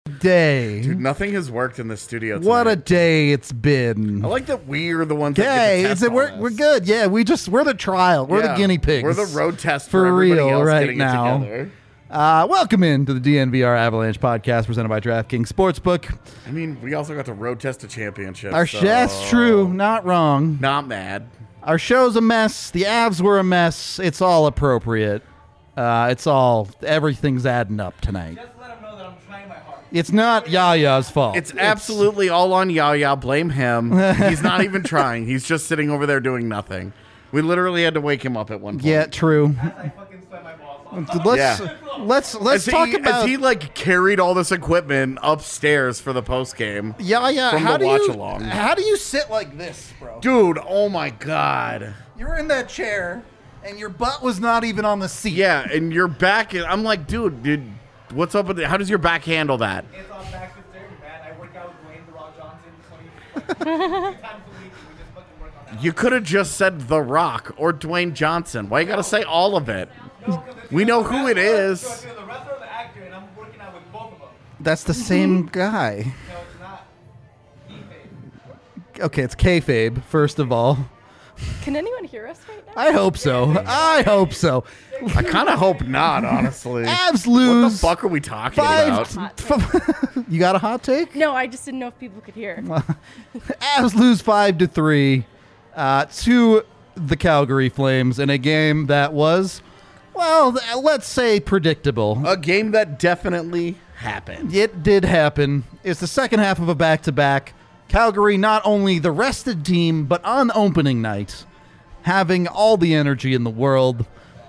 day. Dude, nothing has worked in the studio tonight. What a day it's been. I like that we're the ones Okay, that get to test we're good. Yeah, we're the trial. We're the guinea pigs. We're the road test for everybody real else right getting now. It together. Welcome into the DNVR Avalanche podcast presented by DraftKings Sportsbook. I mean, we also got to road test a championship. That's true. Not wrong. Not mad. Our show's a mess. The Avs were a mess. It's all appropriate. Everything's adding up tonight. Just let him know that I'm trying my hardest. It's not Yaya's fault. It's absolutely all on Yaya. Blame him. He's not even trying. He's just sitting over there doing nothing. We literally had to wake him up at one point. Yeah, true. As I fucking sweat my balls off. Let's talk about. As he carried all this equipment upstairs for the post game. Yeah. From the watch along. How do you sit like this, bro? Dude, oh my god. You were in that chair, and your butt was not even on the seat. Yeah, and your back. I'm like, dude, what's up with it? How does your back handle that? It's all back to dirty, man. I work out with Dwayne The Rock Johnson 2 times a week. We just fucking work on that. You could have just said The Rock or Dwayne Johnson. Why you got to say all of it? No, 'cause it's We either know who the it wrestler- is. so it's either the wrestler or the actor, and I'm working out with both of them. That's the same guy. No, it's not. Kayfabe. Okay, it's kayfabe, first of all. Can anyone hear us right now? I hope so. I hope so. I kind of hope not, honestly. Avs What lose. the fuck are we talking about? You got a hot take? No, I just didn't know if people could hear. Avs lose 5-3 to the Calgary Flames in a game that was, well, let's say predictable. A game that definitely happened. It did happen. It's the second half of a back-to-back. Calgary, not only the rested team, but on opening night, having all the energy in the world.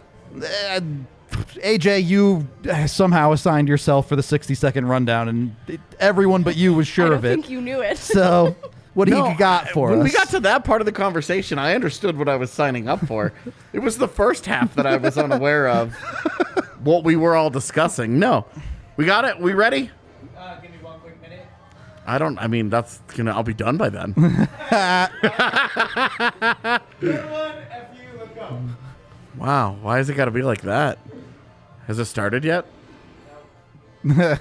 AJ, you somehow assigned yourself for the 60-second rundown, and everyone but you was sure I of don't it. think you knew it. So, what do you got for when us? we got to that part of the conversation, I understood what I was signing up for. It was the first half that I was unaware of what we were all discussing. No. We got it? We ready? Give me 1 quick minute. I'll be done by then. Good one. F you. Let's go. Wow. Why has it got to be like that? Has it started yet? Now it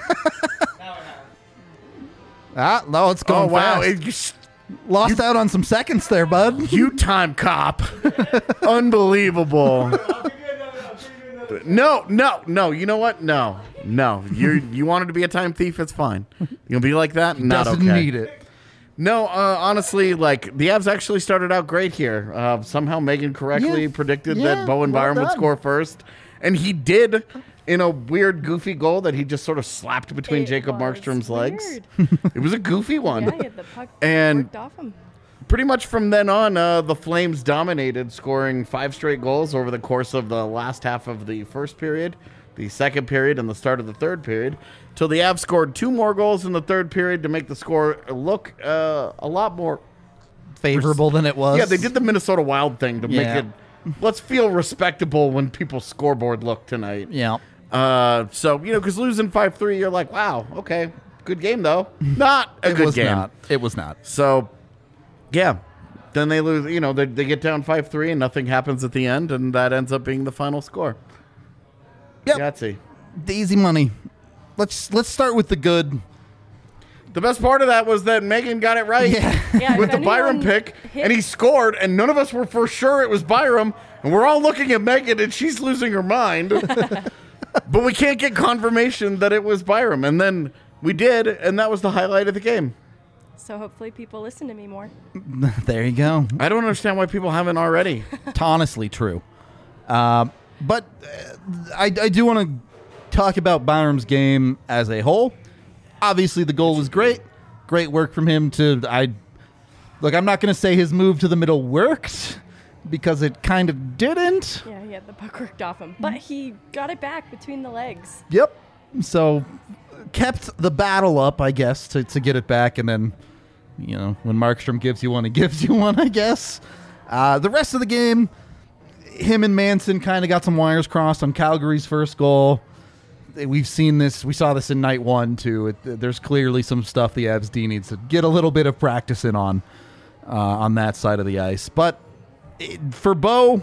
has. No, it's going fast. Lost out on some seconds there, bud. You time cop. Unbelievable. I'll give you another. No. You know what? No. You wanted to be a time thief. It's fine. You'll be like that. Not Doesn't okay. need it. No, honestly, the Avs actually started out great here. Somehow Megan correctly predicted that Bowen well Byram would done. score first, and he did in a weird, goofy goal that he just sort of slapped between It Jacob was Markstrom's legs. weird. It was a goofy one. Yeah, he had the puck And- worked off him. Pretty much from then on, the Flames dominated, scoring 5 straight goals over the course of the last half of the first period, the second period, and the start of the third period, till the Avs scored 2 more goals in the third period to make the score look a lot more Favorable than it was. Yeah, they did the Minnesota Wild thing to make Yeah. it, let's feel respectable when people's scoreboard look tonight. Yeah. So, because losing 5-3, you're like, wow, okay, good game, though. Not a It good was game. not. It was not. So, yeah. Then they lose, they get down 5-3 and nothing happens at the end, and that ends up being the final score. Yep. Yahtzee. The easy money. Let's start with the good. The best part of that was that Megan got it right Yeah, with if the Byram anyone pick, hit- and he scored, and none of us were for sure it was Byram, and we're all looking at Megan, and she's losing her mind. But we can't get confirmation that it was Byram, and then we did, and that was the highlight of the game. So hopefully people listen to me more. There you go. I don't understand why people haven't already. It's honestly true. But I do want to talk about Byram's game as a whole. Obviously, the goal was great. Great work from him I'm not going to say his move to the middle worked because it kind of didn't. Yeah, he had the puck worked off him. But he got it back between the legs. Yep. So kept the battle up, I guess, to get it back. And then, when Markstrom gives you one, he gives you one, I guess. The rest of the game, him and Manson kind of got some wires crossed on Calgary's first goal. We've seen this. We saw this in night 1, too. There's clearly some stuff the Avs D needs to get a little bit of practice in on that side of the ice. But for Bo,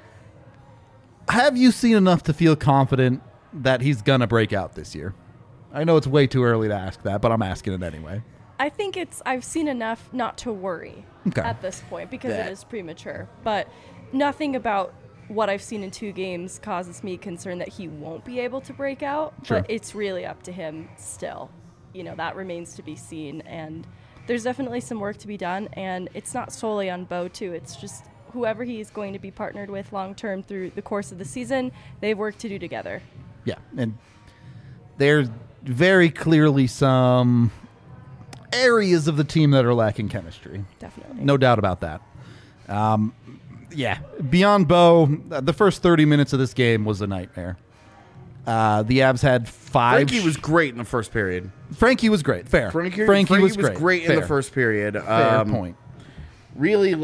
have you seen enough to feel confident that he's going to break out this year? I know it's way too early to ask that, but I'm asking it anyway. I think I've seen enough not to worry Okay. at this point because That- it is premature. But nothing about what I've seen in 2 games causes me concern that he won't be able to break out. Sure. But it's really up to him still. That remains to be seen. And there's definitely some work to be done. And it's not solely on Bo, too. It's just whoever he is going to be partnered with long term through the course of the season, they have work to do together. Yeah, and there's very clearly some areas of the team that are lacking chemistry. Definitely. No doubt about that. Yeah, beyond Bo, the first 30 minutes of this game was a nightmare. The Avs had 5. Frankie was great in the first period. Frankie was great. Fair. Frankie was great in the Fair. first period. Fair point. Really,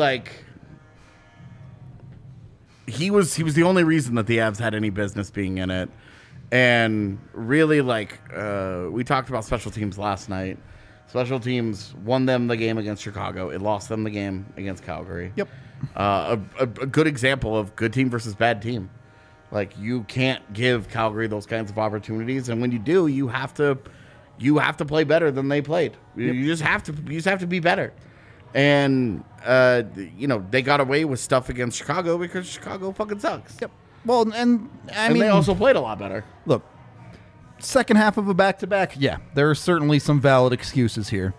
he was the only reason that the Avs had any business being in it. And really, we talked about special teams last night. Special teams won them the game against Chicago. It lost them the game against Calgary. Yep. A good example of good team versus bad team. You can't give Calgary those kinds of opportunities, and when you do, you have to play better than they played. You just have to be better. And they got away with stuff against Chicago because Chicago fucking sucks. Yep. Well, and I mean, they also played a lot better. look, second half of a back-to-back, yeah, there are certainly some valid excuses here.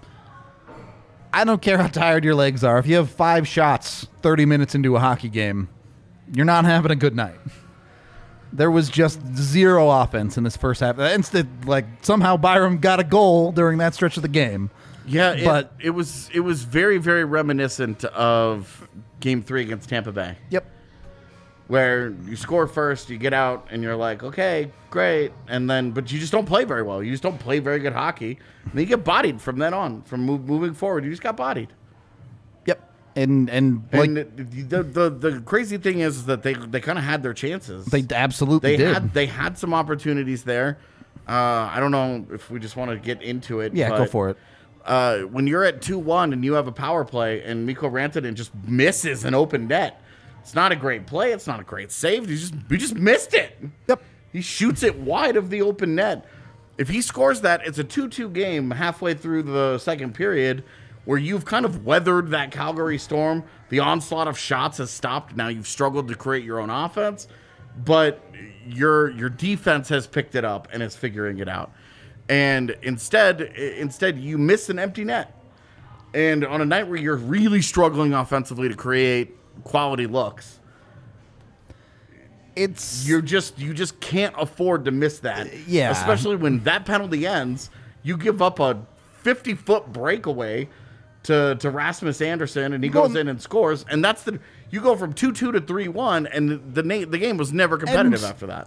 I don't care how tired your legs are. If you have 5 shots 30 minutes into a hockey game, you're not having a good night. There was just 0 offense in this first half. Instead, somehow Byram got a goal during that stretch of the game. Yeah, But- it was very, very reminiscent of Game 3 against Tampa Bay, Yep. where you score first, you get out, and you're like, okay, great, but you just don't play very well. You just don't play very good hockey. And then you get bodied from then on. From moving forward, you just got bodied. Yep. And The crazy thing is that they kind of had their chances. they absolutely did. They had some opportunities there. I don't know if we just want to get into it. Yeah, go for it. When you're at 2-1 and you have a power play and Mikko Rantanen just misses an open net, it's not a great play. It's not a great save. We just missed it. Yep. He shoots it wide of the open net. If he scores that, it's a 2-2 game halfway through the second period where you've kind of weathered that Calgary storm. The onslaught of shots has stopped. Now you've struggled to create your own offense, but your defense has picked it up and is figuring it out. And instead you miss an empty net. And on a night where you're really struggling offensively to create quality looks, you just can't afford to miss that. Yeah. Especially when that penalty ends, you give up a 50-foot breakaway to Rasmus Anderson, and he goes in and scores, and you go from 2-2 to 3-1, and the game was never competitive after that.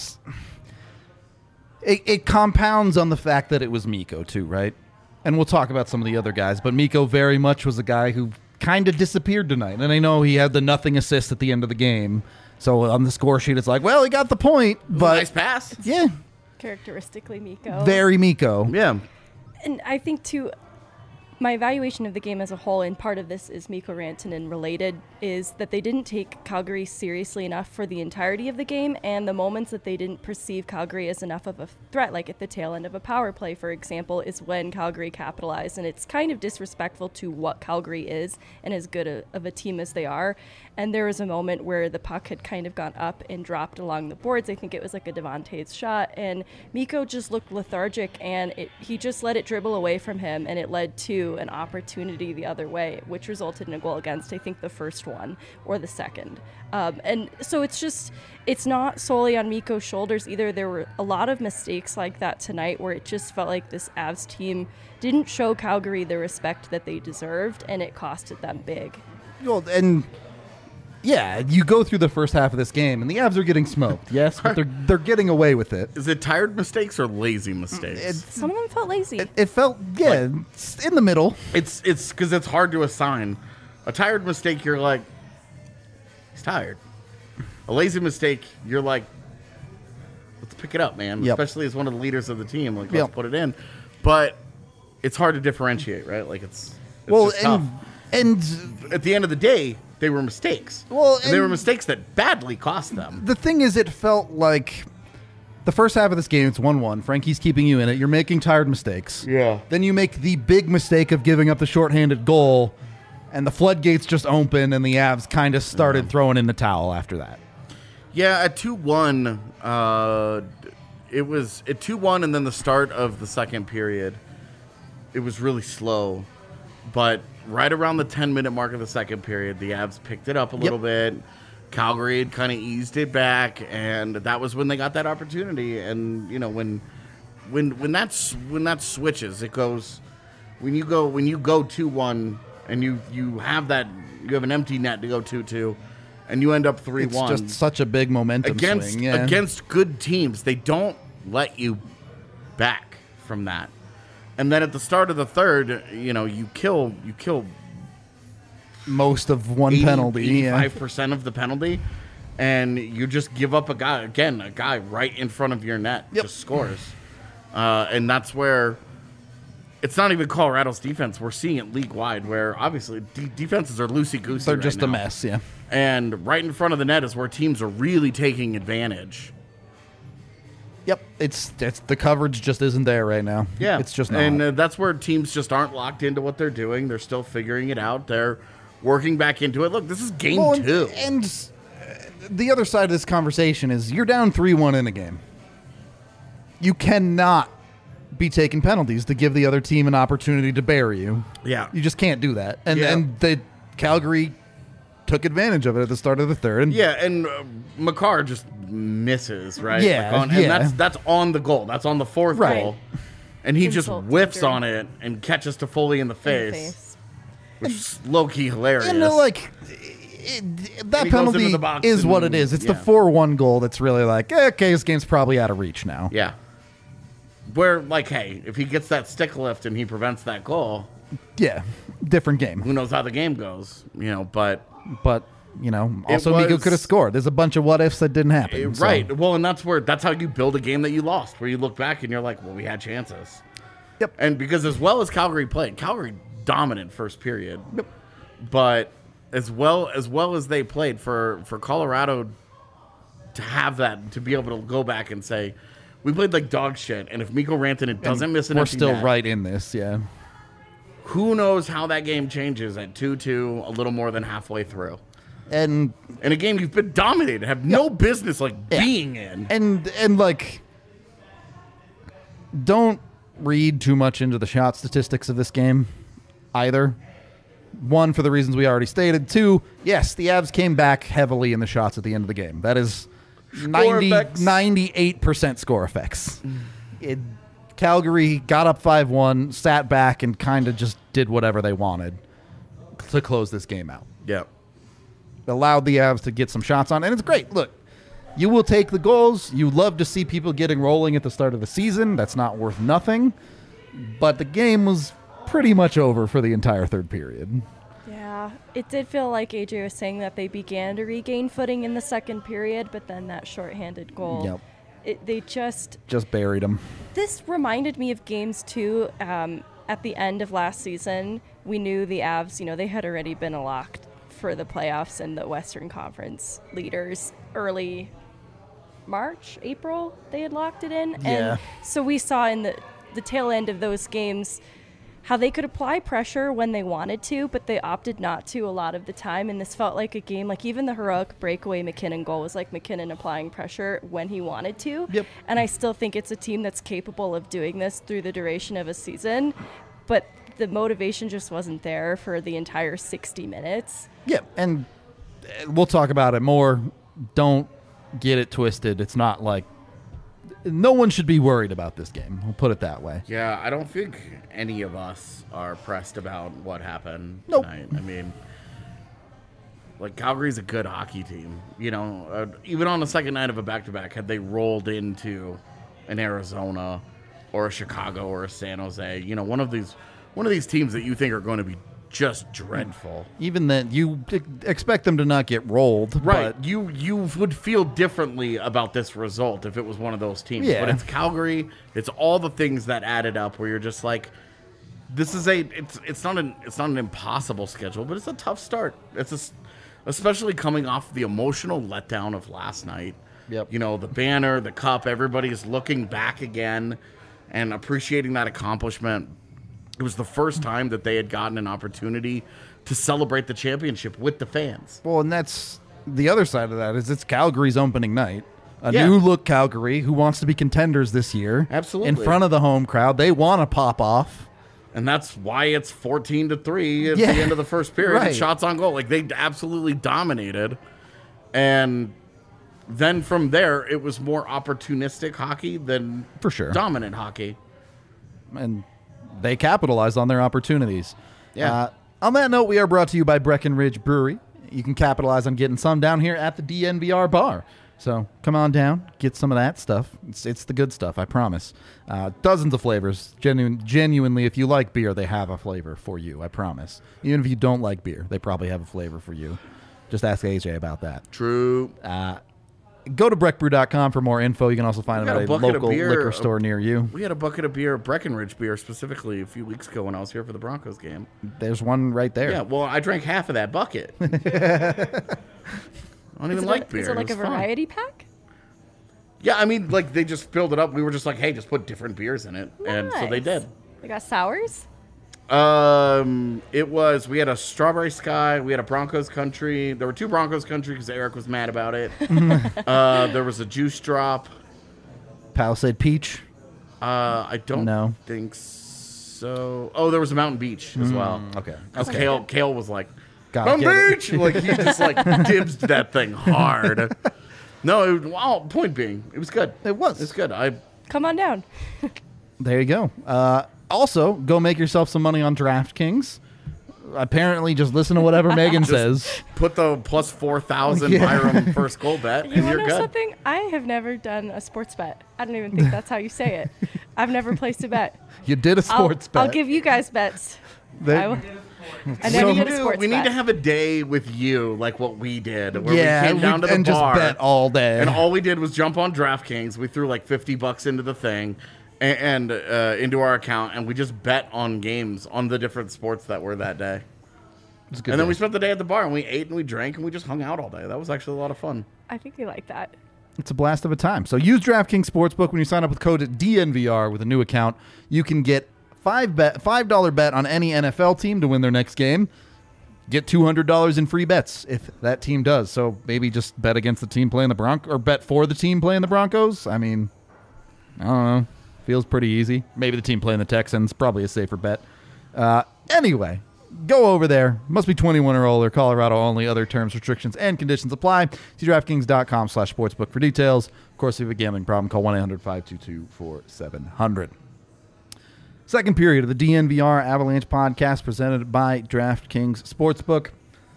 It compounds on the fact that it was Mikko too, right? And we'll talk about some of the other guys, but Mikko very much was a guy who kind of disappeared tonight. And I know he had the nothing assist at the end of the game, so on the score sheet it's like, well, he got the point, but nice pass. yeah, Characteristically Mikko. very Mikko. Yeah. And I think, too, my evaluation of the game as a whole, and part of this is Mikko Rantanen related, is that they didn't take Calgary seriously enough for the entirety of the game, and the moments that they didn't perceive Calgary as enough of a threat, like at the tail end of a power play, for example, is when Calgary capitalized. And it's kind of disrespectful to what Calgary is and as good of a team as they are. And there was a moment where the puck had kind of gone up and dropped along the boards. I think it was like a Devontae's shot, and Mikko just looked lethargic, and he just let it dribble away from him, and it led to an opportunity the other way, which resulted in a goal against, I think, the first one or the second. And so it's not solely on Mikko's shoulders either. There were a lot of mistakes like that tonight where it just felt like this Avs team didn't show Calgary the respect that they deserved, and it costed them big. Well, and yeah, you go through the first half of this game, and the Avs are getting smoked, yes, but they're getting away with it. Is it tired mistakes or lazy mistakes? Some of them felt lazy. It felt, it's in the middle. It's because it's hard to assign. A tired mistake, you're like, he's tired. A lazy mistake, you're like, let's pick it up, man. Yep. Especially as one of the leaders of the team, let's Yep. put it in. But it's hard to differentiate, right? It's Well, just tough. and At the end of the day, they were mistakes. Well, and they were and- mistakes that badly cost them. the thing is, it felt like the first half of this game, it's 1-1. Frankie's keeping you in it. You're making tired mistakes. Yeah. Then you make the big mistake of giving up the shorthanded goal, and the floodgates just open, and the Avs kind of started throwing in the towel after that. Yeah, at 2-1, it was at 2-1, and then the start of the second period, it was really slow. But right around the 10-minute mark of the second period, the Avs picked it up a little bit. Calgary had kind of eased it back, and that was when they got that opportunity. And you know, when that switches, it goes when you go 2-1, and you have an empty net to go 2-2. And you end up 3-1. It's just such a big momentum swing. Yeah. Against good teams, they don't let you back from that. And then at the start of the third, you know, you kill most of one penalty, 85% of the penalty, and you just give up a guy right in front of your net just scores. And that's where it's not even Colorado's defense. We're seeing it league-wide where obviously defenses are loosey-goosey. They're just a mess, yeah. And right in front of the net is where teams are really taking advantage. Yep, it's the coverage just isn't there right now. Yeah, it's just not. And that's where teams just aren't locked into what they're doing. They're still figuring it out. They're working back into it. Look, this is game 2. And the other side of this conversation is you're down 3-1 in a game. You cannot be taking penalties to give the other team an opportunity to bury you. Yeah. You just can't do that. And the Calgary took advantage of it at the start of the third. And Makar just misses, right? Yeah, and that's on the goal. That's on the fourth goal. And he just Insult whiffs taker. on it and catches Toffoli in the face. Which is low-key hilarious. And that he goes penalty into the box is what and- it is. It's the yeah. 4-1 goal that's really like, okay, this game's probably out of reach now. Yeah. Where, like, hey, if he gets that stick lift and he prevents that goal, Yeah, different game. who knows how the game goes, you know, but... But, you know, also Nico was- could have scored. There's a bunch of what ifs that didn't happen. so- Right. Well, and that's how you build a game that you lost, where you look back and you're like, well, we had chances. Yep. And because as well as Calgary played, Calgary dominant first period. Yep. But as well as they played, for Colorado to have that, to be able to go back and say, we played like dog shit, and if Mikko Rantanen doesn't miss an We're empty still net, right in this, yeah. who knows how that game changes at 2-2 a little more than halfway through. And In a game you've been dominated, have no business being in. and like, don't read too much into the shot statistics of this game either. One, for the reasons we already stated. Two, yes, the Avs came back heavily in the shots at the end of the game. That is 98% score effects. Calgary got up 5-1, sat back, and kind of just did whatever they wanted to close this game out. Yeah. Allowed the Avs to get some shots on, and it's great. Look, you will take the goals. You love to see people getting rolling at the start of the season. That's not worth nothing. But the game was pretty much over for the entire third period. Yeah, it did feel like AJ was saying that they began to regain footing in the second period, but then that shorthanded goal, they just buried them. This reminded me of games too. At the end of last season, we knew the Avs, they had already been locked for the playoffs and the Western Conference leaders early March, April, they had locked it in. Yeah. And so we saw in the tail end of those games how they could apply pressure when they wanted to, but they opted not to a lot of the time. And this felt like a game, like even the heroic breakaway McKinnon goal was like McKinnon applying pressure when he wanted to. Yep. And I still think it's a team that's capable of doing this through the duration of a season, but the motivation just wasn't there for the entire 60 minutes. Yeah, and we'll talk about it more. Don't get it twisted. It's not like no one should be worried about this game. We'll put it that way. Yeah, I don't think any of us are pressed about what happened Nope. tonight. I mean, like, Calgary's a good hockey team. Even on the second night of a back-to-back, had they rolled into an Arizona or a Chicago or a San Jose, one of these teams that you think are going to be just dreadful. Even then, you expect them to not get rolled. Right. But You would feel differently about this result if it was one of those teams. Yeah. But it's Calgary. It's all the things that added up where you're just like, this is it's not an impossible schedule, but it's a tough start. Especially coming off the emotional letdown of last night. Yep. You know, the banner, the cup, everybody's looking back again and appreciating that accomplishment. It was the first time that they had gotten an opportunity to celebrate the championship with the fans. Well, and that's the other side of that is it's Calgary's opening night. A Yeah. new look Calgary who wants to be contenders this year. Absolutely. In front of the home crowd. They want to pop off. And that's why it's 14-3 at Yeah. the end of the first period. Right. And shots on goal. Like, they absolutely dominated. And then from there, it was more opportunistic hockey than For sure. dominant hockey. And they capitalized on their opportunities. Yeah. On that note, we are brought to you by Breckenridge Brewery. You can capitalize on getting some down here at the DNVR bar. So come on down, get some of that stuff. It's the good stuff, I promise. Dozens of flavors. Genuinely, if you like beer, they have a flavor for you, I promise. Even if you don't like beer, they probably have a flavor for you. Just ask AJ about that. True. Go to breckbrew.com for more info. You can also find We them got at a a bucket of local beer, liquor store near you. We had a bucket of beer, Breckenridge beer specifically, a few weeks ago when I was here for the Broncos game. There's one right there. Yeah, well, I drank half of that bucket. I don't even like beer. Is it like a was fun. variety pack? Yeah, I mean, like, they just filled it up. We were just like, hey, just put different beers in it. And so they Nice. did. They got sours? We had a Strawberry Sky, we had a Broncos Country. There were 2 Broncos Country because Eric was mad about it. There was a Juice Drop. Palisade Peach. I don't No. think so. Oh, there was a Mountain Beach as well. Okay. Because Kale was like, Gotta Mountain get it. Beach! Like, he just, like, dibs that thing hard. No, point being, it was good. It was. It's good. Come on down. There you go. Also, go make yourself some money on DraftKings. Apparently, just listen to whatever Megan says. Put the plus 4,000 Yeah. Byram first goal bet, You and want you're to know good. something? I have never done a sports bet. I don't even think that's how you say it. I've never placed a bet. You did a sports bet. I'll give you guys bets. They- I will- I never did a sports We need bet. to have a day with you, like what we did, where yeah, we came down to the and bar just bet all day. and all we did was jump on DraftKings. We threw like $50 into the thing and into our account, and we just bet on games on the different sports that were that day. It's a good And then day. we spent the day at the bar, and we ate and we drank and we just hung out all day. That was actually a lot of fun. I think they like that. It's a blast of a time. So use DraftKings Sportsbook when you sign up with code DNVR with a new account. You can get $5 bet on any NFL team to win their next game. Get $200 in free bets if that team does. So maybe just bet against the team playing the Broncos, or bet for the team playing the Broncos. I mean, I don't know. Feels pretty easy. Maybe the team playing the Texans, probably a safer bet. Anyway, go over there. Must be 21 or older. Colorado only. Other terms, restrictions, and conditions apply. See DraftKings.com/sportsbook for details. Of course, if you have a gambling problem, call 1-800-522-4700. Second period of the DNVR Avalanche podcast presented by DraftKings Sportsbook.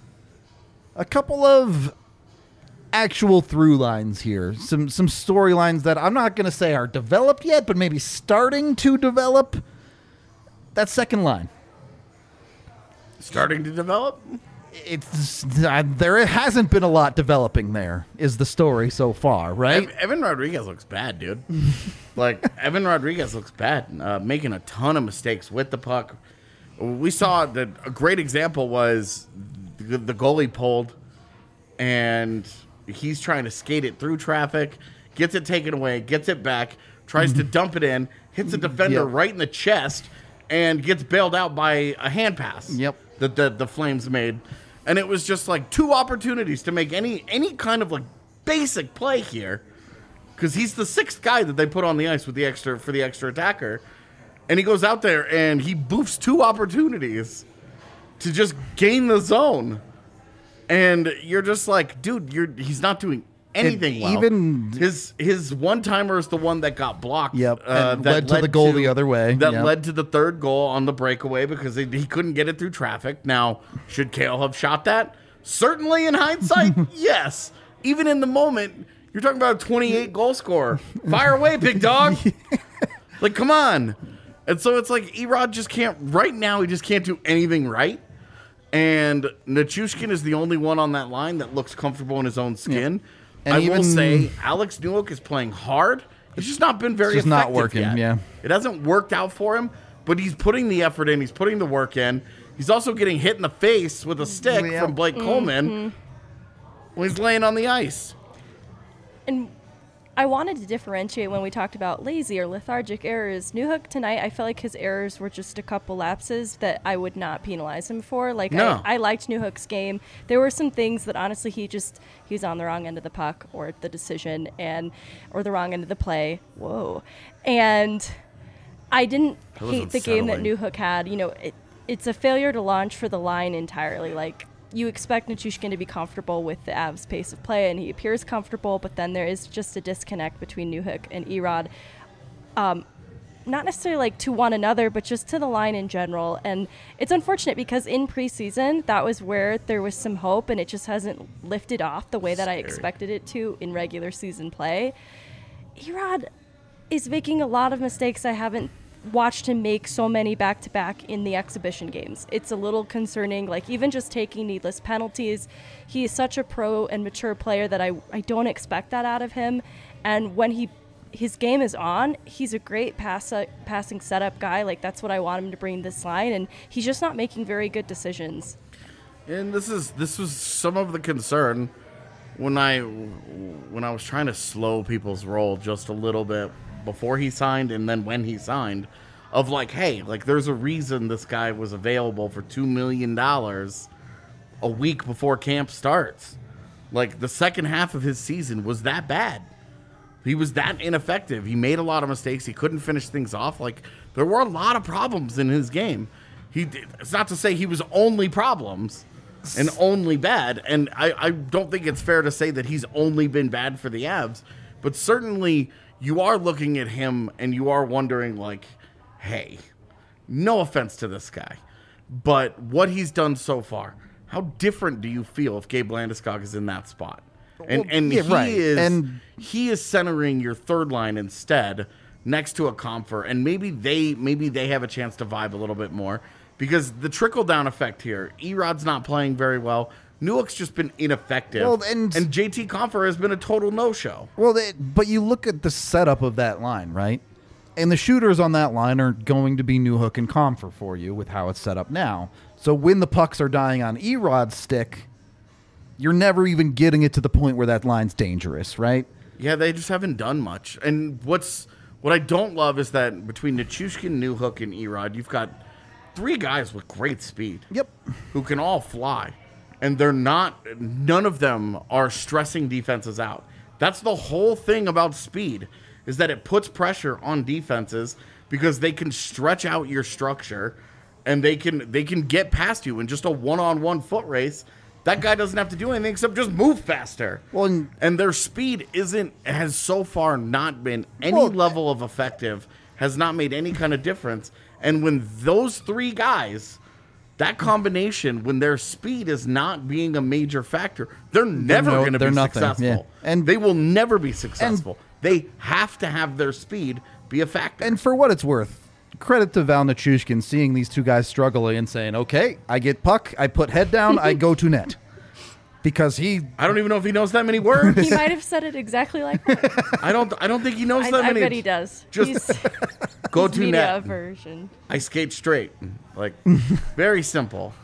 A couple of actual through lines here. Some storylines that I'm not going to say are developed yet, but maybe starting to develop. That second line. Starting to develop? There hasn't been a lot developing there, is the story so far, right? Evan Rodriguez looks bad, dude. Evan Rodriguez looks bad, making a ton of mistakes with the puck. We saw that a great example was the goalie pulled, and he's trying to skate it through traffic, gets it taken away, gets it back, tries to dump it in, hits a defender Yep. right in the chest, and gets bailed out by a hand pass. Yep. That the Flames made. And it was just like 2 opportunities to make any kind of like basic play here, because he's the 6th guy that they put on the ice with the extra attacker, and he goes out there and he boofs 2 opportunities to just gain the zone, and you're just like, dude, he's not doing anything well. even- his one-timer is the one that got blocked. Yep, and that led to the goal the other way. That Yep. led to the 3rd goal on the breakaway because he couldn't get it through traffic. Now, should Kale have shot that? Certainly in hindsight, yes. Even in the moment, you're talking about a 28 goal scorer. Fire away, big dog. Like, come on. And so it's like Erod just can't, right now, he just can't do anything right. And Nichushkin is the only one on that line that looks comfortable in his own skin. And I will even- say, Alex Newhook is playing hard. It's just not been very just not effective working, yet. yeah. It hasn't worked out for him, but he's putting the effort in. He's putting the work in. He's also getting hit in the face with a stick Yeah. from Blake Coleman when he's laying on the ice. And I wanted to differentiate when we talked about lazy or lethargic errors. Newhook tonight, I felt like his errors were just a couple lapses that I would not penalize him for. Like, No. I liked Newhook's game. There were some things that honestly he was on the wrong end of the puck or the decision or the wrong end of the play. Whoa. And I didn't That was hate the game that unsettling. Newhook had. It's a failure to launch for the line entirely. Like, you expect Nichushkin to be comfortable with the Avs' pace of play, and he appears comfortable, but then there is just a disconnect between Newhook and Erod. Not necessarily like to one another, but just to the line in general. And it's unfortunate because in preseason, that was where there was some hope, and it just hasn't lifted off the way that I Scary. expected it to in regular season play. Erod is making a lot of mistakes I haven't watched him make so many back-to-back in the exhibition games. It's a little concerning, like even just taking needless penalties. He is such a pro and mature player that I don't expect that out of him. And when his game is on, he's a great passing setup guy. Like, that's what I want him to bring this line, and he's just not making very good decisions. And this was some of the concern when I was trying to slow people's roll just a little bit before he signed and then when he signed, of like, hey, like there's a reason this guy was available for $2 million a week before camp starts. Like, the second half of his season was that bad. He was that ineffective. He made a lot of mistakes. He couldn't finish things off. Like, there were a lot of problems in his game. It's not to say he was only problems and only bad. And I don't think it's fair to say that he's only been bad for the Avs. But certainly you are looking at him and you are wondering, like, hey, no offense to this guy, but what he's done so far, how different do you feel if Gabe Landeskog is in that spot? And yeah, he right. is And he is centering your third line instead next to a Comfer, and maybe they have a chance to vibe a little bit more, because the trickle down effect here, Erod's not playing very well. Newick's just been ineffective. Well, and JT Compher has been a total no-show. Well, but you look at the setup of that line, right? And the shooters on that line are going to be Newhook and Comfer for you with how it's set up now. So when the pucks are dying on Erod's stick, you're never even getting it to the point where that line's dangerous, right? Yeah, they just haven't done much. And what I don't love is that between Nichushkin, Newhook, and Erod, you've got three guys with great speed. Yep. Who can all fly. And none of them are stressing defenses out. That's the whole thing about speed, is that it puts pressure on defenses because they can stretch out your structure and they can get past you in just a one-on-one foot race. That guy doesn't have to do anything except just move faster. Well, and their speed has so far not been any level of effective, has not made any kind of difference. And when those three guys, that combination, when their speed is not being a major factor, they're never going to be successful. Yeah. And they will never be successful. They have to have their speed be a factor. And for what it's worth, credit to Val Nichushkin seeing these two guys struggling and saying, okay, I get puck, I put head down, I go to net. Because I don't even know if he knows that many words. He might have said it exactly like that. I don't think he knows that I many. bet he does. Just go He's to media net. Version. I skate straight. Like, very simple.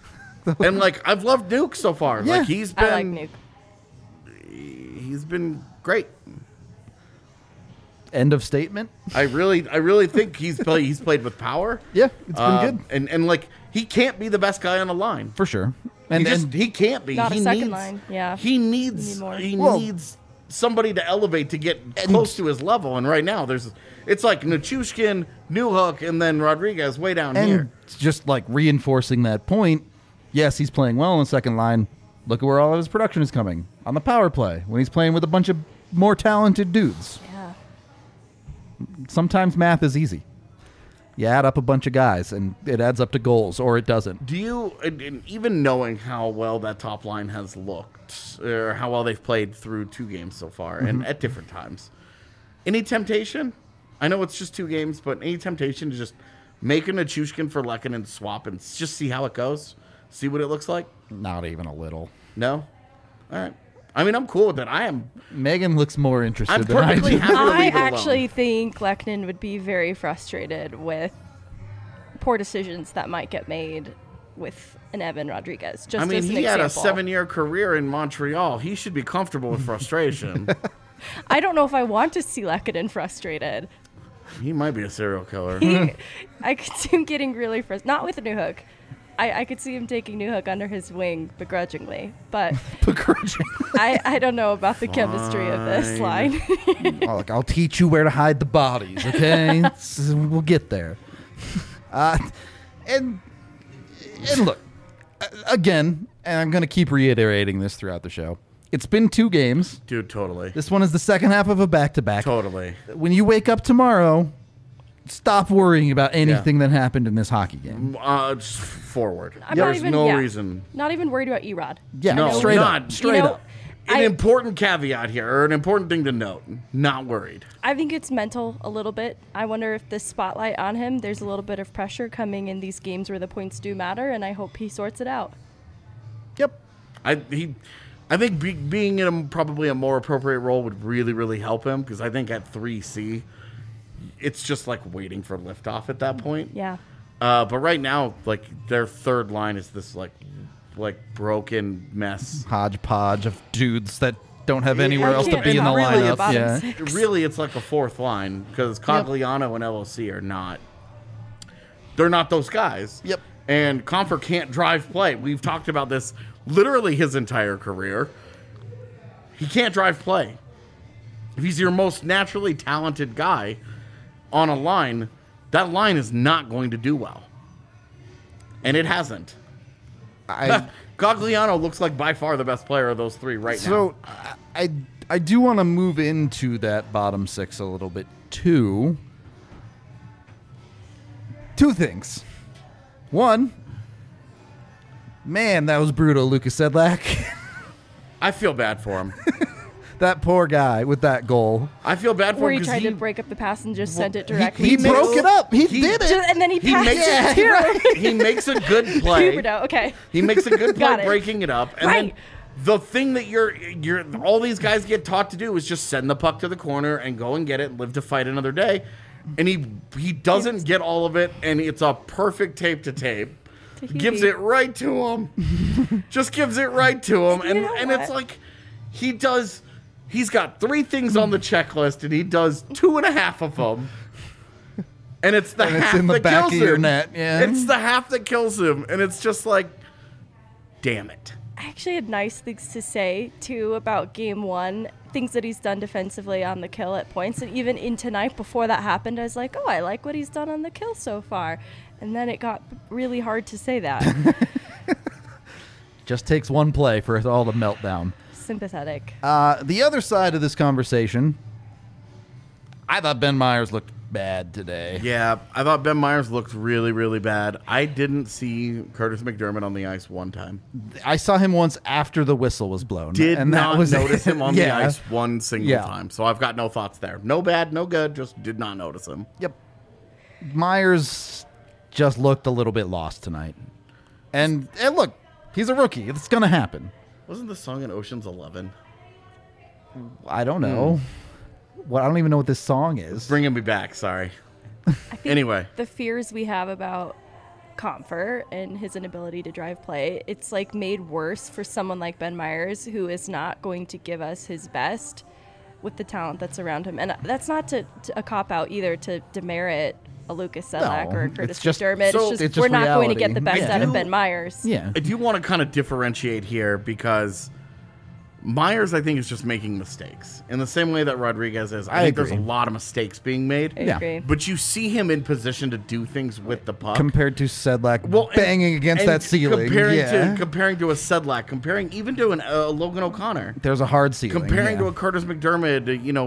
And like, I've loved Nuke so far. Yeah. Like, he's I like been Nuke. he's been great. End of statement. I really think he's played with power. Yeah, it's been good. And like, he can't be the best guy on the line. For sure. He can't be. Not he a second needs, line, yeah. He needs Need more. needs somebody to elevate to get close to his level. And right now, it's like Nichushkin, Newhook, and then Rodriguez way down here. And just like reinforcing that point, yes, he's playing well on the second line. Look at where all of his production is coming. On the power play, when he's playing with a bunch of more talented dudes. Yeah. Sometimes math is easy. You add up a bunch of guys, and it adds up to goals, or it doesn't. Do you, and even knowing how well that top line has looked, or how well they've played through 2 games so far, and at different times, any temptation? I know it's just 2 games, but any temptation to just make a Nichushkin for Lehkonen swap and just see how it goes? See what it looks like? Not even a little. No? All right. I mean, I'm cool with that. Megan looks more interested I'm than I perfectly do. happy to I leave it alone. actually think Lehkonen would be very frustrated with poor decisions that might get made with an Evan Rodriguez. Just I mean, as an he had a example. 7-year career in Montreal. He should be comfortable with frustration. I don't know if I want to see Lehkonen frustrated. He might be a serial killer. I could see him getting really frustrated. Not with Newhook. I could see him taking Newhook under his wing begrudgingly, but I don't know about the chemistry of this line. Oh, look, I'll teach you where to hide the bodies, okay? We'll get there. And look, again, and I'm going to keep reiterating this throughout the show. It's been 2 games. Dude, totally. This one is the second half of a back-to-back. Totally. When you wake up tomorrow, stop worrying about anything that happened in this hockey game. Just forward. I'm There's no reason. Not even worried about Erod. Yeah, No, straight not. up. Straight up. An important caveat here, or an important thing to note. Not worried. I think it's mental a little bit. I wonder if the spotlight on him, there's a little bit of pressure coming in these games where the points do matter, and I hope he sorts it out. Yep. I think being in probably a more appropriate role would really, really help him, because I think at 3C, it's just like waiting for liftoff at that point. Yeah. But right now, like, their third line is this like broken mess. Hodgepodge of dudes that don't have anywhere I else to can't be in the really lineup. bottom Yeah. six. Really, it's like a fourth line, because Cogliano and LOC are not. They're not those guys. Yep. And Compher can't drive play. We've talked about this literally his entire career. He can't drive play. If he's your most naturally talented guy on a line, that line is not going to do well. And it hasn't. Cogliano looks like by far the best player of those 3 right now. So I do want to move into that bottom 6 a little bit too. 2 things. One, man, that was brutal, Lucas Sedlak. I feel bad for him. That poor guy with that goal. I feel bad for Where him he because tried to break up the pass and just sent it directly. He to- broke it up. He did it. And then he He passed makes it it to He makes a good play. Huberdeau. Okay. He makes a good Got play it. breaking it up. And Right. then the thing that you're all these guys get taught to do is just send the puck to the corner and go and get it and live to fight another day. And he doesn't get all of it, and it's a perfect tape to tape. Gives it right to him. Just gives it right to him. You know And what? it's like he's got 3 things on the checklist, and he does 2.5 of them. And it's the And it's half in the that back kills of your him. net, yeah. It's the half that kills him. And it's just like, damn it. I actually had nice things to say, too, about Game 1. Things that he's done defensively on the kill at points. And even in tonight, before that happened, I was like, oh, I like what he's done on the kill so far. And then it got really hard to say that. Just takes one play for it all to melt down. Sympathetic. The other side of this conversation, I thought Ben Myers looked bad today. Yeah, I thought Ben Myers looked really, really bad. I didn't see Curtis McDermott on the ice one time. I saw him once after the whistle was blown. Did and that not was notice him on the Yeah. ice one single Yeah. time. So I've got no thoughts there. No bad, no good, just did not notice him. Yep. Myers just looked a little bit lost tonight. And look, he's a rookie. It's going to happen. Wasn't the song in Ocean's 11? I don't know. Well, I don't even know what this song is. Bringing me back, sorry. I think Anyway. the fears we have about Compher and his inability to drive play, it's like made worse for someone like Ben Myers, who is not going to give us his best with the talent that's around him. And that's not to a cop-out either, to demerit a Lucas Sedlak No, or a it's Curtis just- McDermott. so- It's just it's we're just not going to get reality. the best Yeah. out of Ben Myers. Yeah. I do want to kind of differentiate here because Myers, I think, is just making mistakes in the same way that Rodriguez is. I think agree. there's a lot of mistakes being made. I Yeah. agree. But you see him in position to do things with the puck. Compared to Sedlak and- banging against and that ceiling. Comparing Yeah. to a Sedlak, comparing even to a Logan O'Connor, There's a hard ceiling. comparing yeah. to a Curtis McDermott.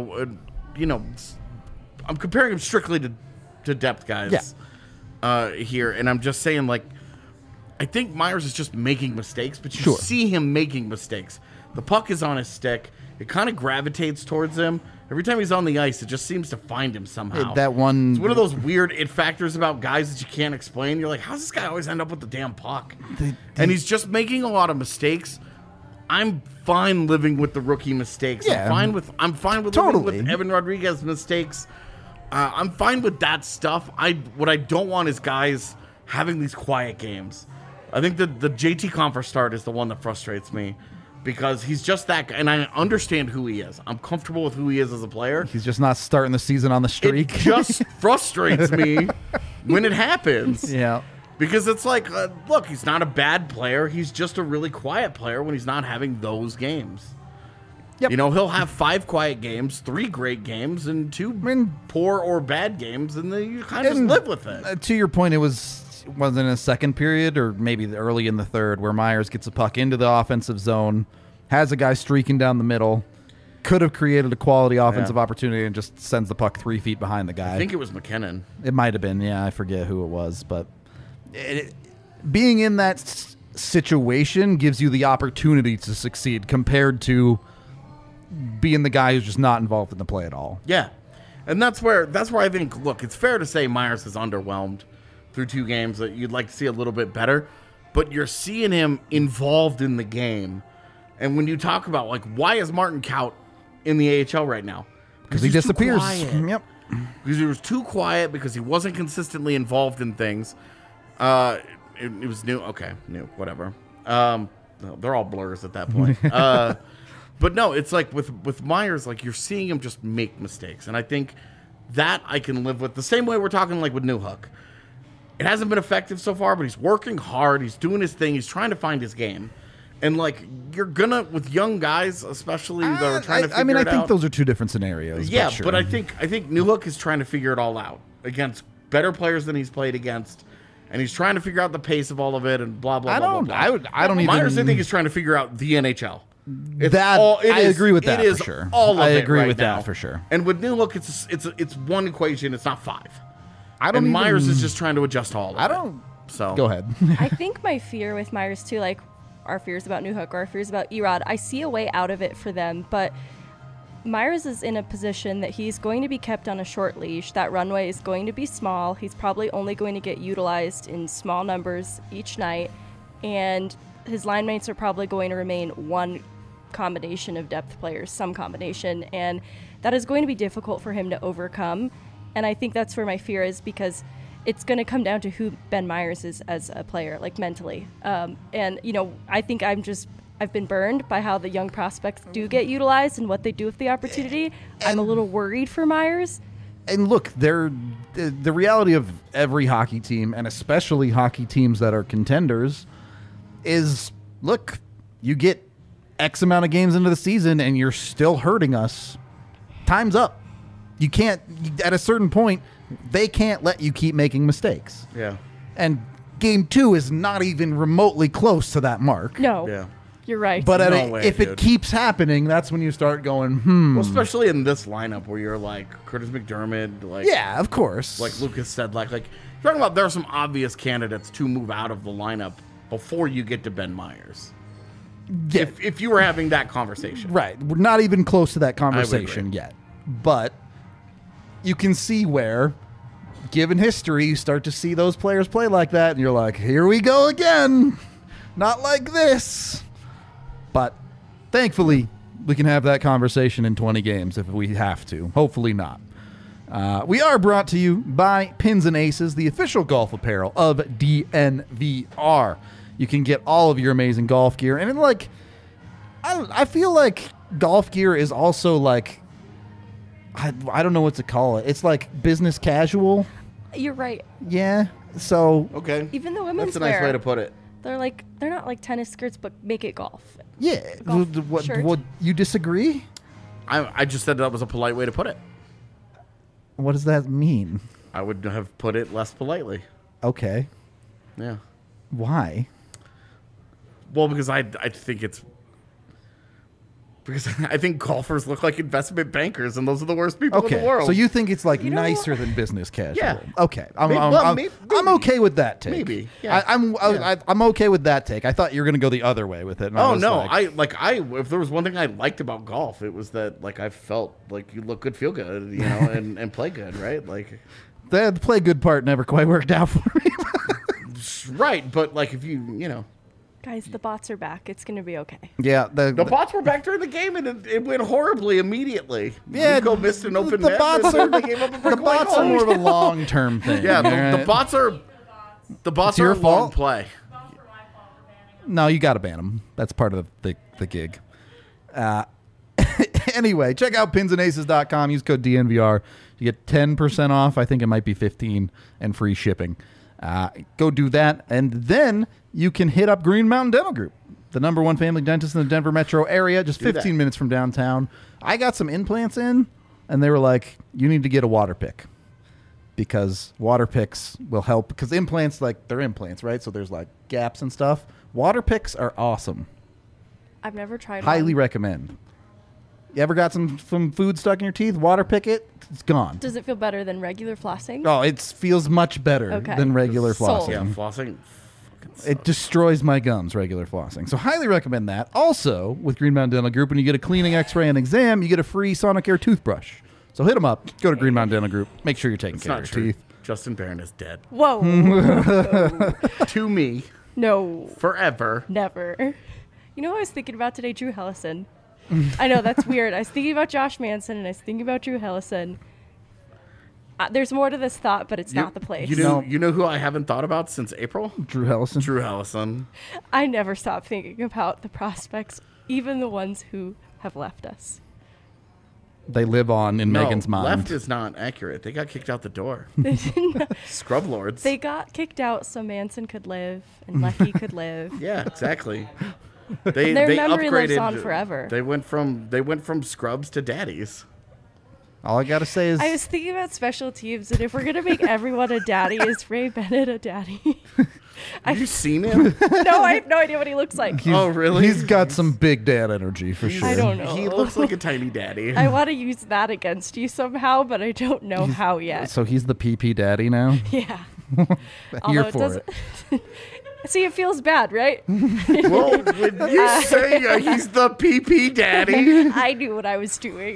I'm comparing him strictly to depth guys here, and I'm just saying, like, I think Myers is just making mistakes, but you Sure. see him making mistakes. The puck is on his stick. It kind of gravitates towards him. Every time he's on the ice, it just seems to find him somehow. That one. It's one of those weird it factors about guys that you can't explain. You're like, how's this guy always end up with the damn puck? And he's just making a lot of mistakes. I'm fine living with the rookie mistakes. Yeah. I'm fine with Totally. living with Evan Rodriguez mistakes. I'm fine with that stuff. What I don't want is guys having these quiet games. I think the JT Compher start is the one that frustrates me. because he's just that guy, and I understand who he is. I'm comfortable with who he is as a player. He's just not starting the season on the streak. It just frustrates me when it happens. Yeah. Because it's like, look, he's not a bad player. He's just a really quiet player when he's not having those games. Yep. You know, he'll have 5 quiet games, 3 great games, and 2 poor or bad games, and then you kind of just live with it. To your point, it wasn't in the second period or maybe early in the third where Myers gets a puck into the offensive zone, has a guy streaking down the middle, could have created a quality offensive opportunity and just sends the puck 3 feet behind the guy. I think it was McKinnon. It might have been. Yeah, I forget who it was. But being in that situation gives you the opportunity to succeed compared to being the guy who's just not involved in the play at all. Yeah. And that's where I think, look, it's fair to say Myers is underwhelmed through 2 games that you'd like to see a little bit better, but you're seeing him involved in the game. And when you talk about, like, why is Martin Kaut in the AHL right now? Because he disappears. Yep. Because he was too quiet, because he wasn't consistently involved in things. It was new. Okay, new, whatever. They're all blurs at that point. But no, it's like with Myers, like you're seeing him just make mistakes. And I think that I can live with. The same way we're talking like with Newhook. It hasn't been effective so far, but he's working hard. He's doing his thing. He's trying to find his game. And like you're gonna, with young guys, especially that are trying to figure it out. I think those are 2 different scenarios. Yeah, sure. but I think Newhook is trying to figure it all out against better players than he's played against. And he's trying to figure out the pace of all of it and blah, blah, blah, blah. I don't even... Myers, I think, is trying to figure out the NHL. I agree with that for sure. All of I it agree right with now. that for sure. And with Newhook, it's one equation. It's not 5. Myers is just trying to adjust all of it. So Go ahead. I think my fear with Myers too, like our fears about Newhook or our fears about Erod, I see a way out of it for them, but Myers is in a position that he's going to be kept on a short leash. That runway is going to be small. He's probably only going to get utilized in small numbers each night, and his line mates are probably going to remain one combination of depth players, some combination, and that is going to be difficult for him to overcome. And I think that's where my fear is, because it's going to come down to who Ben Myers is as a player, like mentally. And, you know, I think I've been burned by how the young prospects do get utilized and what they do with the opportunity. I'm a little worried for Myers. And look, the reality of every hockey team, and especially hockey teams that are contenders, is, look, you get X amount of games into the season and you're still hurting us. Time's up. You can't, at a certain point, they can't let you keep making mistakes. Yeah. And game 2 is not even remotely close to that mark. No. Yeah. You're right. But if dude. it keeps happening, that's when you start going, Well, especially in this lineup where you're like Curtis McDermott, like yeah, of course. like Lucas said, like you're talking about there are some obvious candidates to move out of the lineup before you get to Ben Myers. Yeah. If you were having that conversation. Right. We're not even close to that agree. conversation yet. But you can see where, given history, you start to see those players play like that, and you're like, here we go again. Not like this. But thankfully, we can have that conversation in 20 games if we have to. Hopefully not. We are brought to you by Pins and Aces, the official golf apparel of DNVR. You can get all of your amazing golf gear. And like, I feel like golf gear is also like, I don't know what to call it. It's like business casual. You're right. Yeah. So Okay. Even the women's That's a nice wear, way to put it. they're not like tennis skirts, but make it golf. yeah. Golf shirt. What you disagree? I just said that was a polite way to put it. What does that mean? I would have put it less politely. Okay. Yeah. Why? Well, because I think it's because I think golfers look like investment bankers, and those are the worst people in the Okay. world. So you think it's like You know nicer than business casual? Yeah. Okay. I'm Maybe. okay with that take. Maybe, yeah. I'm okay with that take. I thought you were going to go the other way with it. And I Oh was no! like, If there was one thing I liked about golf, it was that like I felt like you look good, feel good, you know, and play good, right? Like, the play good part never quite worked out for me. right? But like if you know, Guys, the bots are back. It's going to be okay. Yeah. the bots were back during the game, and it went horribly immediately. Yeah, Nico missed an open the net. bots and are- they gave up a The brick white bots are goal. more of a long-term thing. Yeah, the alright? bots are It's your a long fault? play. No, you got to ban them. That's part of the the gig. Anyway, check out pinsandaces.com. Use code DNVR. You get 10% off. I think it might be 15 and free shipping. Go do that. And then you can hit up Green Mountain Dental Group, the #1 family dentist in the Denver metro area, just 15 minutes from downtown. I got some implants in, and they were like, you need to get a water pick because water picks will help. Because implants, like, they're implants, right? So there's, like, gaps and stuff. Water picks are awesome. I've never tried Highly one. recommend. You ever got some food stuck in your teeth? Water pick it. It's gone. Does it feel better than regular flossing? Oh, it feels much better Okay. than regular Sold. flossing. Yeah, flossing. It destroys my gums, regular flossing. So highly recommend that. Also, with Green Mountain Dental Group, when you get a cleaning, x-ray, and exam, you get a free Sonicare toothbrush. So hit them up. Go to Green Mountain Dental Group. Make sure you're taking It's care not of your true. teeth. Justin Barron is dead. Whoa. To me, No. forever. Never. You know what I was thinking about today? Drew Hellison. I know, that's weird. I was thinking about Josh Manson, and I was thinking about Drew Hellison. There's more to this thought, but it's not the place. You know who I haven't thought about since April? Drew Hellison. Drew Hellison. I never stop thinking about the prospects, even the ones who have left us. They live on in Megan's mind. Left is not accurate. They got kicked out the door. Scrub lords. They got kicked out so Manson could live and Lecky could live. Yeah, exactly. They Their they memory upgraded. lives on forever. They went from scrubs to daddies. All I got to say is I was thinking about special teams, and if we're going to make everyone a daddy, is Ray Bennett a daddy? Have you seen him? No, I have no idea what he looks like. Oh, really? he's got some big dad energy for sure. I don't know. He looks like a tiny daddy. I want to use that against you somehow, but I don't know how yet. So he's the PP daddy now? Yeah. Here for it. See, it feels bad, right? Well, when you say he's the PP daddy, I knew what I was doing.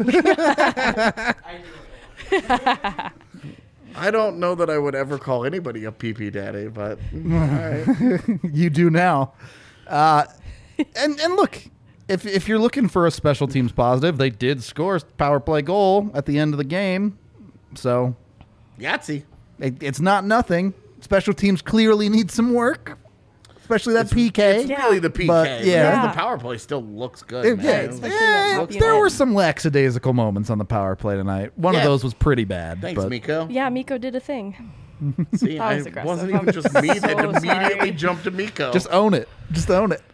I don't know that I would ever call anybody a PP daddy, but all right. You do now. And look, if you're looking for a special teams positive, they did score a power play goal at the end of the game. So Yahtzee. it's not nothing. Special teams clearly need some work, especially that PK. It's really the PK. But, Yeah. yeah. The power play still looks good, man. Especially that top there unit. were some lackadaisical moments on the power play tonight. One of Yeah. those was pretty bad. Thanks, but Miko. Yeah, Miko did a thing. See, That was it aggressive. wasn't even I'm just me that so immediately sorry. jumped to Miko. Just own it. Just own it.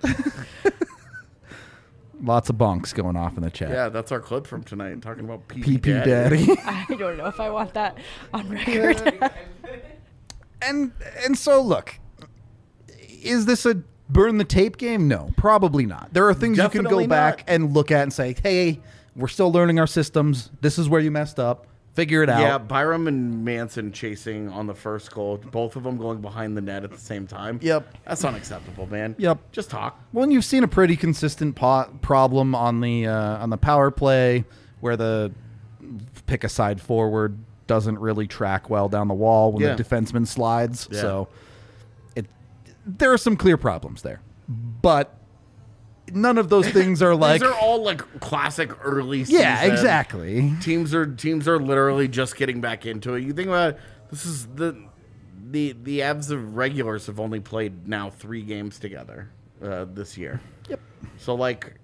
Lots of bonks going off in the chat. yeah, that's our clip from tonight, talking about PP, PP daddy. I don't know if I want that on record. and so look, is this a burn the tape game? No, probably not. There are things you Definitely can go back not. and look at and say, hey, we're still learning our systems. This is where you messed up. Figure it out. Yeah, Byram and Manson chasing on the first goal, both of them going behind the net at the same time. Yep. That's unacceptable, man. Yep. Just talk. Well, and you've seen a pretty consistent problem on the power play where the pick a side forward doesn't really track well down the wall when Yeah. the defenseman slides. Yeah. So there are some clear problems there, but none of those things are like These are all like classic early season. yeah, exactly. Teams are literally just getting back into it. You think about it, this is the Avs of regulars have only played now 3 games together this year. Yep. So like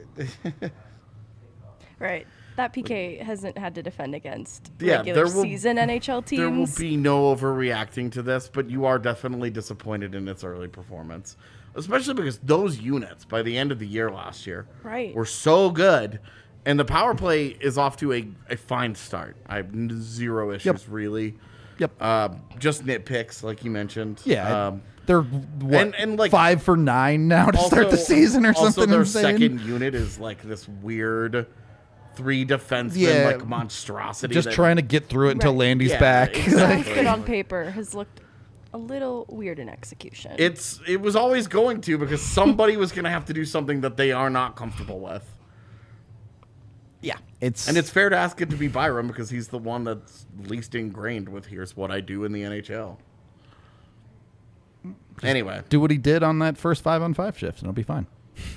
Right. That PK hasn't had to defend against Yeah, regular there will- season NHL teams. there will be no overreacting to this, but you are definitely disappointed in its early performance. Especially because those units by the end of the year last year Right. were so good. And the power play is off to a fine start. I have zero issues really. Yep. Just nitpicks, like you mentioned. Yeah. They're what, and, like, 5 for 9 now to start the season or also something their insane. second unit is like this weird 3 defenseman Yeah. like monstrosity. Just that- trying to get through it until Right. Landy's Yeah, back. exactly. Sounds good on paper. Has looked a little weird in execution. It was always going to because somebody was going to have to do something that they are not comfortable with. Yeah, it's And it's fair to ask it to be Byram because he's the one that's least ingrained with here's what I do in the NHL. Anyway, do what he did on that first 5-on-5 shift, and it'll be fine.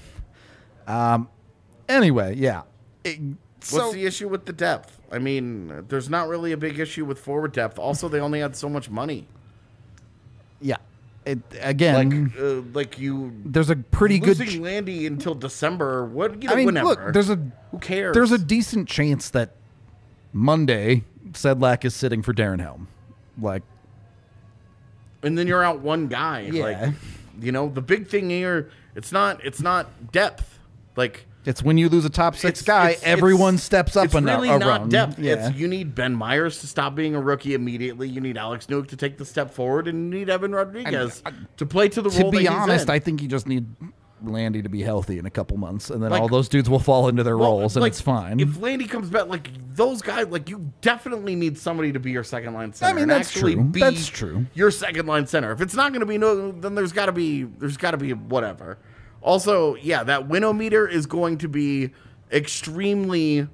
Anyway, yeah. what's the issue with the depth? I mean, there's not really a big issue with forward depth. Also, they only had so much money. Yeah. Again, like you. there's a pretty good. Losing Landy until December. What? You know, I mean, whenever. look, Who cares? There's a decent chance that Monday Sedlak is sitting for Darren Helm. Like, and then you're out one guy. Yeah. Like, you know, the big thing here, it's not depth. Like, it's when you lose a top six guy, everyone steps up it's and really around. not depth. Yeah. It's you need Ben Myers to stop being a rookie immediately. You need Alex Newk to take the step forward, and you need Evan Rodriguez to play to the role. To be that he's honest, in. I think you just need Landy to be healthy in a couple months, and then Like- all those dudes will fall into their roles, and like, it's fine. If Landy comes back, like those guys, like you definitely need somebody to be your second line center. I mean, and that's actually true. Be That's true. Your second line center. If it's not going to be then there's got to be whatever. Also, yeah, that winometer is going to be extremely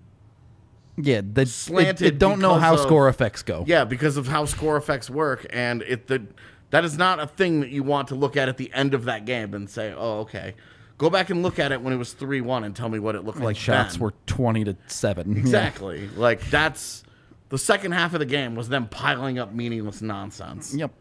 yeah, slanted it don't know because how of- score effects go. yeah because of how score effects work, and that is not a thing that you want to look at the end of that game and say, oh, okay. Go back and look at it when it was 3-1 and tell me what it looked like. Shots then. were 20-7. Exactly. Like, that's the second half of the game was them piling up meaningless nonsense. Yep.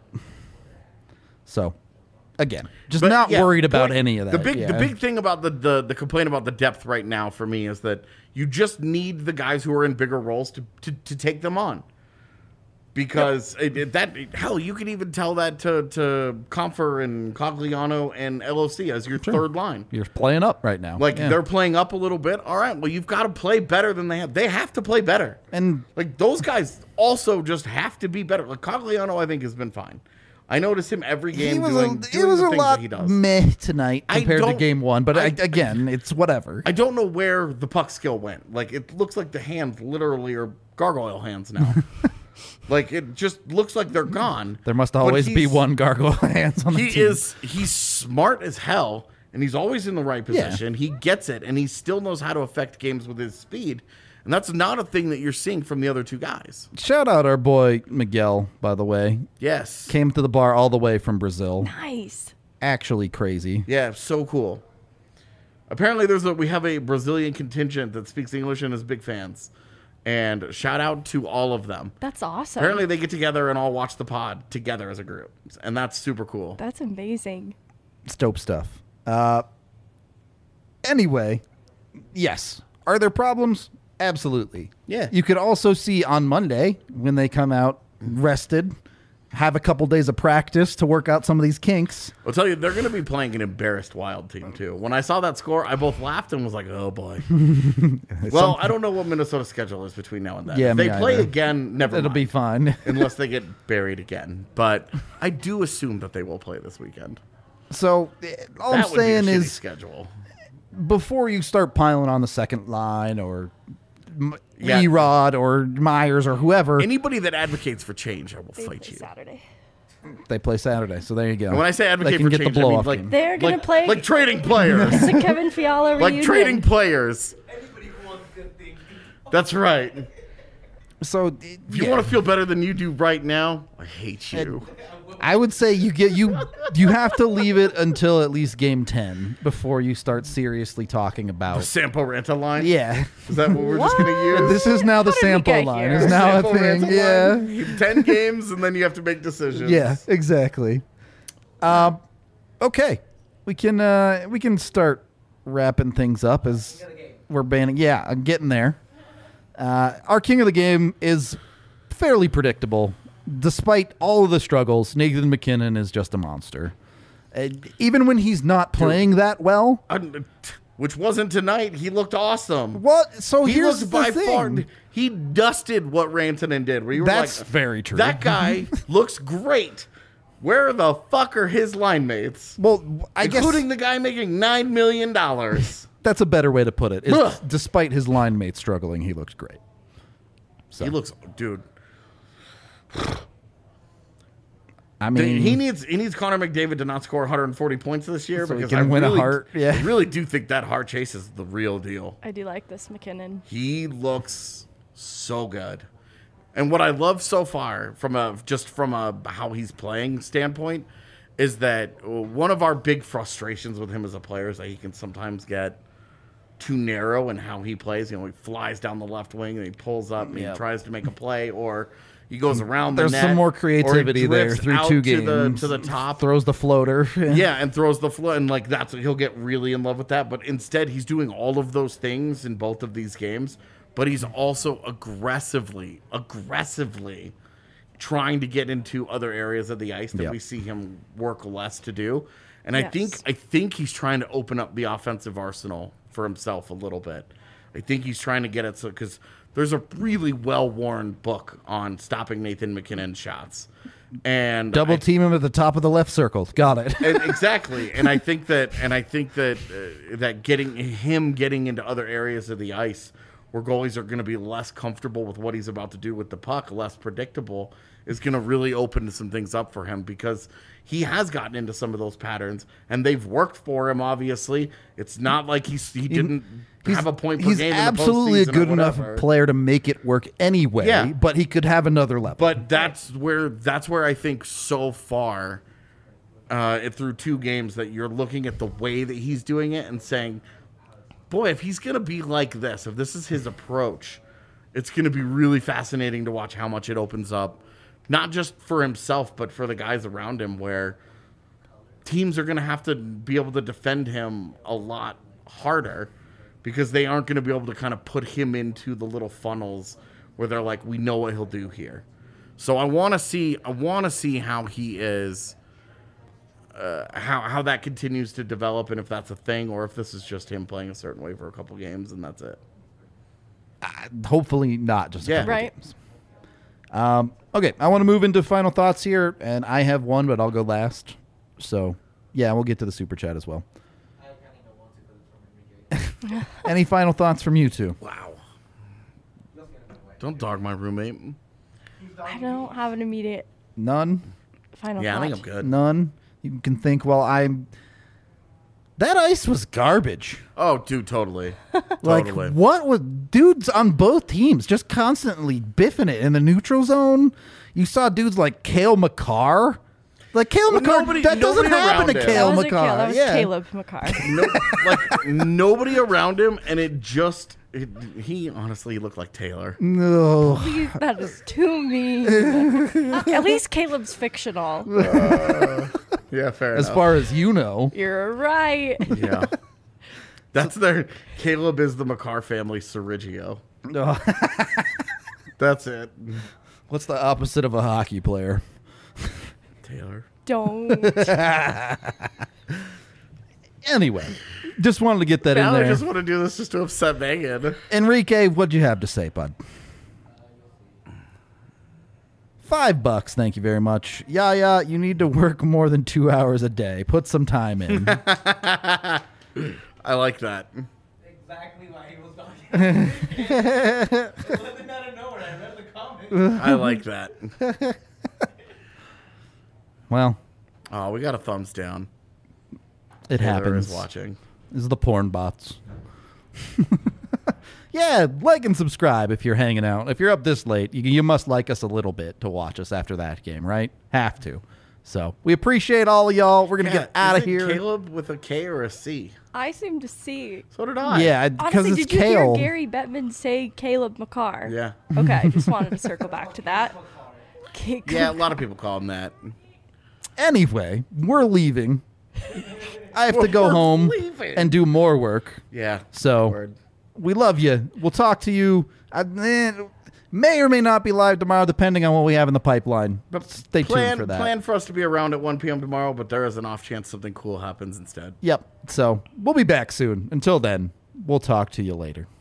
So, again, just But, not yeah, worried about point- any of that. The big thing about the complaint about the depth right now for me is that you just need the guys who are in bigger roles to take them on. Because hell, you could even tell that to Comfer and Cogliano and LOC as your third line. You're playing up right now. Like, Yeah. they're playing up a little bit. All right, well, you've got to play better than they have. They have to play better. And Like, those guys also just have to be better. Like, Cogliano, I think, has been fine. I notice him every game doing it was the a things lot that he does. meh tonight I compared to don't- game one, but I- again, it's whatever. I don't know where the puck skill went. Like, it looks like the hands literally are gargoyle hands now. Like, it just looks like they're gone. There must But always be he's- one gargoyle hands on the team. He's smart as hell, and he's always in the right Yeah. position. He gets it, and he still knows how to affect games with his speed. And that's not a thing that you're seeing from the other two guys. Shout out our boy Miguel, by the way. Yes. Came to the bar all the way from Brazil. Nice. Actually crazy. Yeah, so cool. Apparently, we have a Brazilian contingent that speaks English and is big fans. And shout out to all of them. That's awesome. Apparently, they get together and all watch the pod together as a group, and that's super cool. That's amazing. It's dope stuff. Anyway, yes. Are there problems? Absolutely. Yeah. You could also see on Monday when they come out rested, have a couple days of practice to work out some of these kinks. I'll tell you, they're going to be playing an embarrassed Wild team, too. When I saw that score, I both laughed and was like, oh, boy. Well, I don't know what Minnesota's schedule is between now and then. Yeah, if they me play either. again, never It'll mind. be fine. Unless they get buried again. But I do assume that they will play this weekend. So all I'm That would be a saying shitty is schedule. before you start piling on the second line or Yeah. Erod or Myers or whoever, Anybody that advocates for change, I will They fight play you. Saturday. they play Saturday. So there you go. And when I say They advocate can for get change, the I mean blow-off like game. They're gonna play like trading players. the Kevin Fiala reunion. Like trading players. Anybody who wants good things. That's right. So If you want to feel better than you do right now, I hate you. I would say you have to leave it until at least game 10 before you start seriously talking about. Sampo Ranta line? Yeah, Is that what we're just going to use? this is now the How did we sample get line. here? Is now a Sampo thing. Ranta Yeah, line? 10 games, and then you have to make decisions. yeah, exactly. Okay, we can start wrapping things up as we're banning. Yeah, I'm getting there. Our king of the game is fairly predictable. Despite all of the struggles, Nathan McKinnon is just a monster. Even when he's not playing that well. Which wasn't tonight. He looked awesome. What? So He here's looked the by thing. far. He dusted what Rantanen did. Where you were That's like, very true. That guy looks great. Where the fuck are his line mates? Well, I guess Including the guy making $9 million. that's a better way to put it. is Ugh. despite his line mates struggling, he looked great. So, He looks, dude. I mean, He needs Connor McDavid to not score 140 points this year So he because can I win a really, Hart, yeah. I really do think that Hart chase is the real deal. I do like this McKinnon. He looks so good. And what I love so far from a how he's playing standpoint is that one of our big frustrations with him as a player is that he can sometimes get too narrow in how he plays. You know, he flies down the left wing and he pulls up and he tries to make a play, or He goes around There's the net. some more or he creativity there drifts through out 2 to games. to the top. Throws the floater. Yeah, and throws the float, and like that's he'll get really in love with that. But instead, he's doing all of those things in both of these games. But he's also aggressively trying to get into other areas of the ice that Yep. we see him work less to do. And Yes. I think he's trying to open up the offensive arsenal for himself a little bit. I think he's trying to get it so because there's a really well-worn book on stopping Nathan McKinnon's shots. And Double team him at the top of the left circle. Got it. exactly, and I think that that getting into other areas of the ice where goalies are going to be less comfortable with what he's about to do with the puck, less predictable, is going to really open some things up for him because he has gotten into some of those patterns and they've worked for him. Obviously, it's not like he didn't have a point per He's game. absolutely in a the postseason good or enough whatever. player to make it work anyway. Yeah. But he could have another level. But that's where I think so far, through 2 games, that you're looking at the way that he's doing it and saying, boy, if he's going to be like this, if this is his approach, it's going to be really fascinating to watch how much it opens up, not just for himself, but for the guys around him, where teams are going to have to be able to defend him a lot harder because they aren't going to be able to kind of put him into the little funnels where they're like, we know what he'll do here. So I want to see how he is, how that continues to develop, and if that's a thing, or if this is just him playing a certain way for a couple games and that's it. Hopefully not just a Yeah. couple Right. games. Okay, I want to move into final thoughts here, and I have one, but I'll go last. So, yeah, we'll get to the super chat as well. I kind of don't want to, but it's from Enrique. Any final thoughts from you two? Wow. Let's get it away. Don't dog my roommate. I don't have an immediate None? final Yeah, I thought. think I'm good. None? You can think, well, that ice was garbage. Oh, dude, totally. Like, Totally. what was dudes on both teams just constantly biffing it in the neutral zone? You saw dudes like Cale Makar. Like, Cale Well, Makar, that doesn't nobody happen to around him. Cale That wasn't Makar. Cale, that was yeah. Caleb Makar. No, like nobody around him, and he honestly looked like Taylor. No. Please, that is too mean. At least Caleb's fictional. Yeah, fair As far as you know. You're right. Yeah. That's Caleb is the Makar family Sergio. That's it. What's the opposite of a hockey player? Taylor. Don't. Anyway, just wanted to get that in Now I there. just want to do this just to upset Megan. Enrique, what'd you have to say, bud? $5, thank you very much. Yeah, you need to work more than 2 hours a day. Put some time in. I like that. Exactly why he was talking. It wasn't out of nowhere. I read the comment. I like that. Well, Oh, we got a thumbs down. it Taylor happens. is watching. This is the porn bots. Yeah, like and subscribe if you're hanging out. If you're up this late, you must like us a little bit to watch us after that game, right? Have to. So we appreciate all of y'all. We're gonna get out is of it here. Caleb with a K or a C? I seem to see. So did I. Yeah, because Honestly, it's did you Kale. hear Gary Bettman say Caleb Makar? Yeah. Okay, just wanted to circle back to that. Yeah, a lot of people call him that. Anyway, we're leaving. I have to go We're home leaving. and do more work. Yeah. So Word. we love you. We'll talk to you. May or may not be live tomorrow, depending on what we have in the pipeline. But stay tuned for that. Plan for us to be around at 1 p.m. tomorrow, but there is an off chance something cool happens instead. Yep. So we'll be back soon. Until then, we'll talk to you later.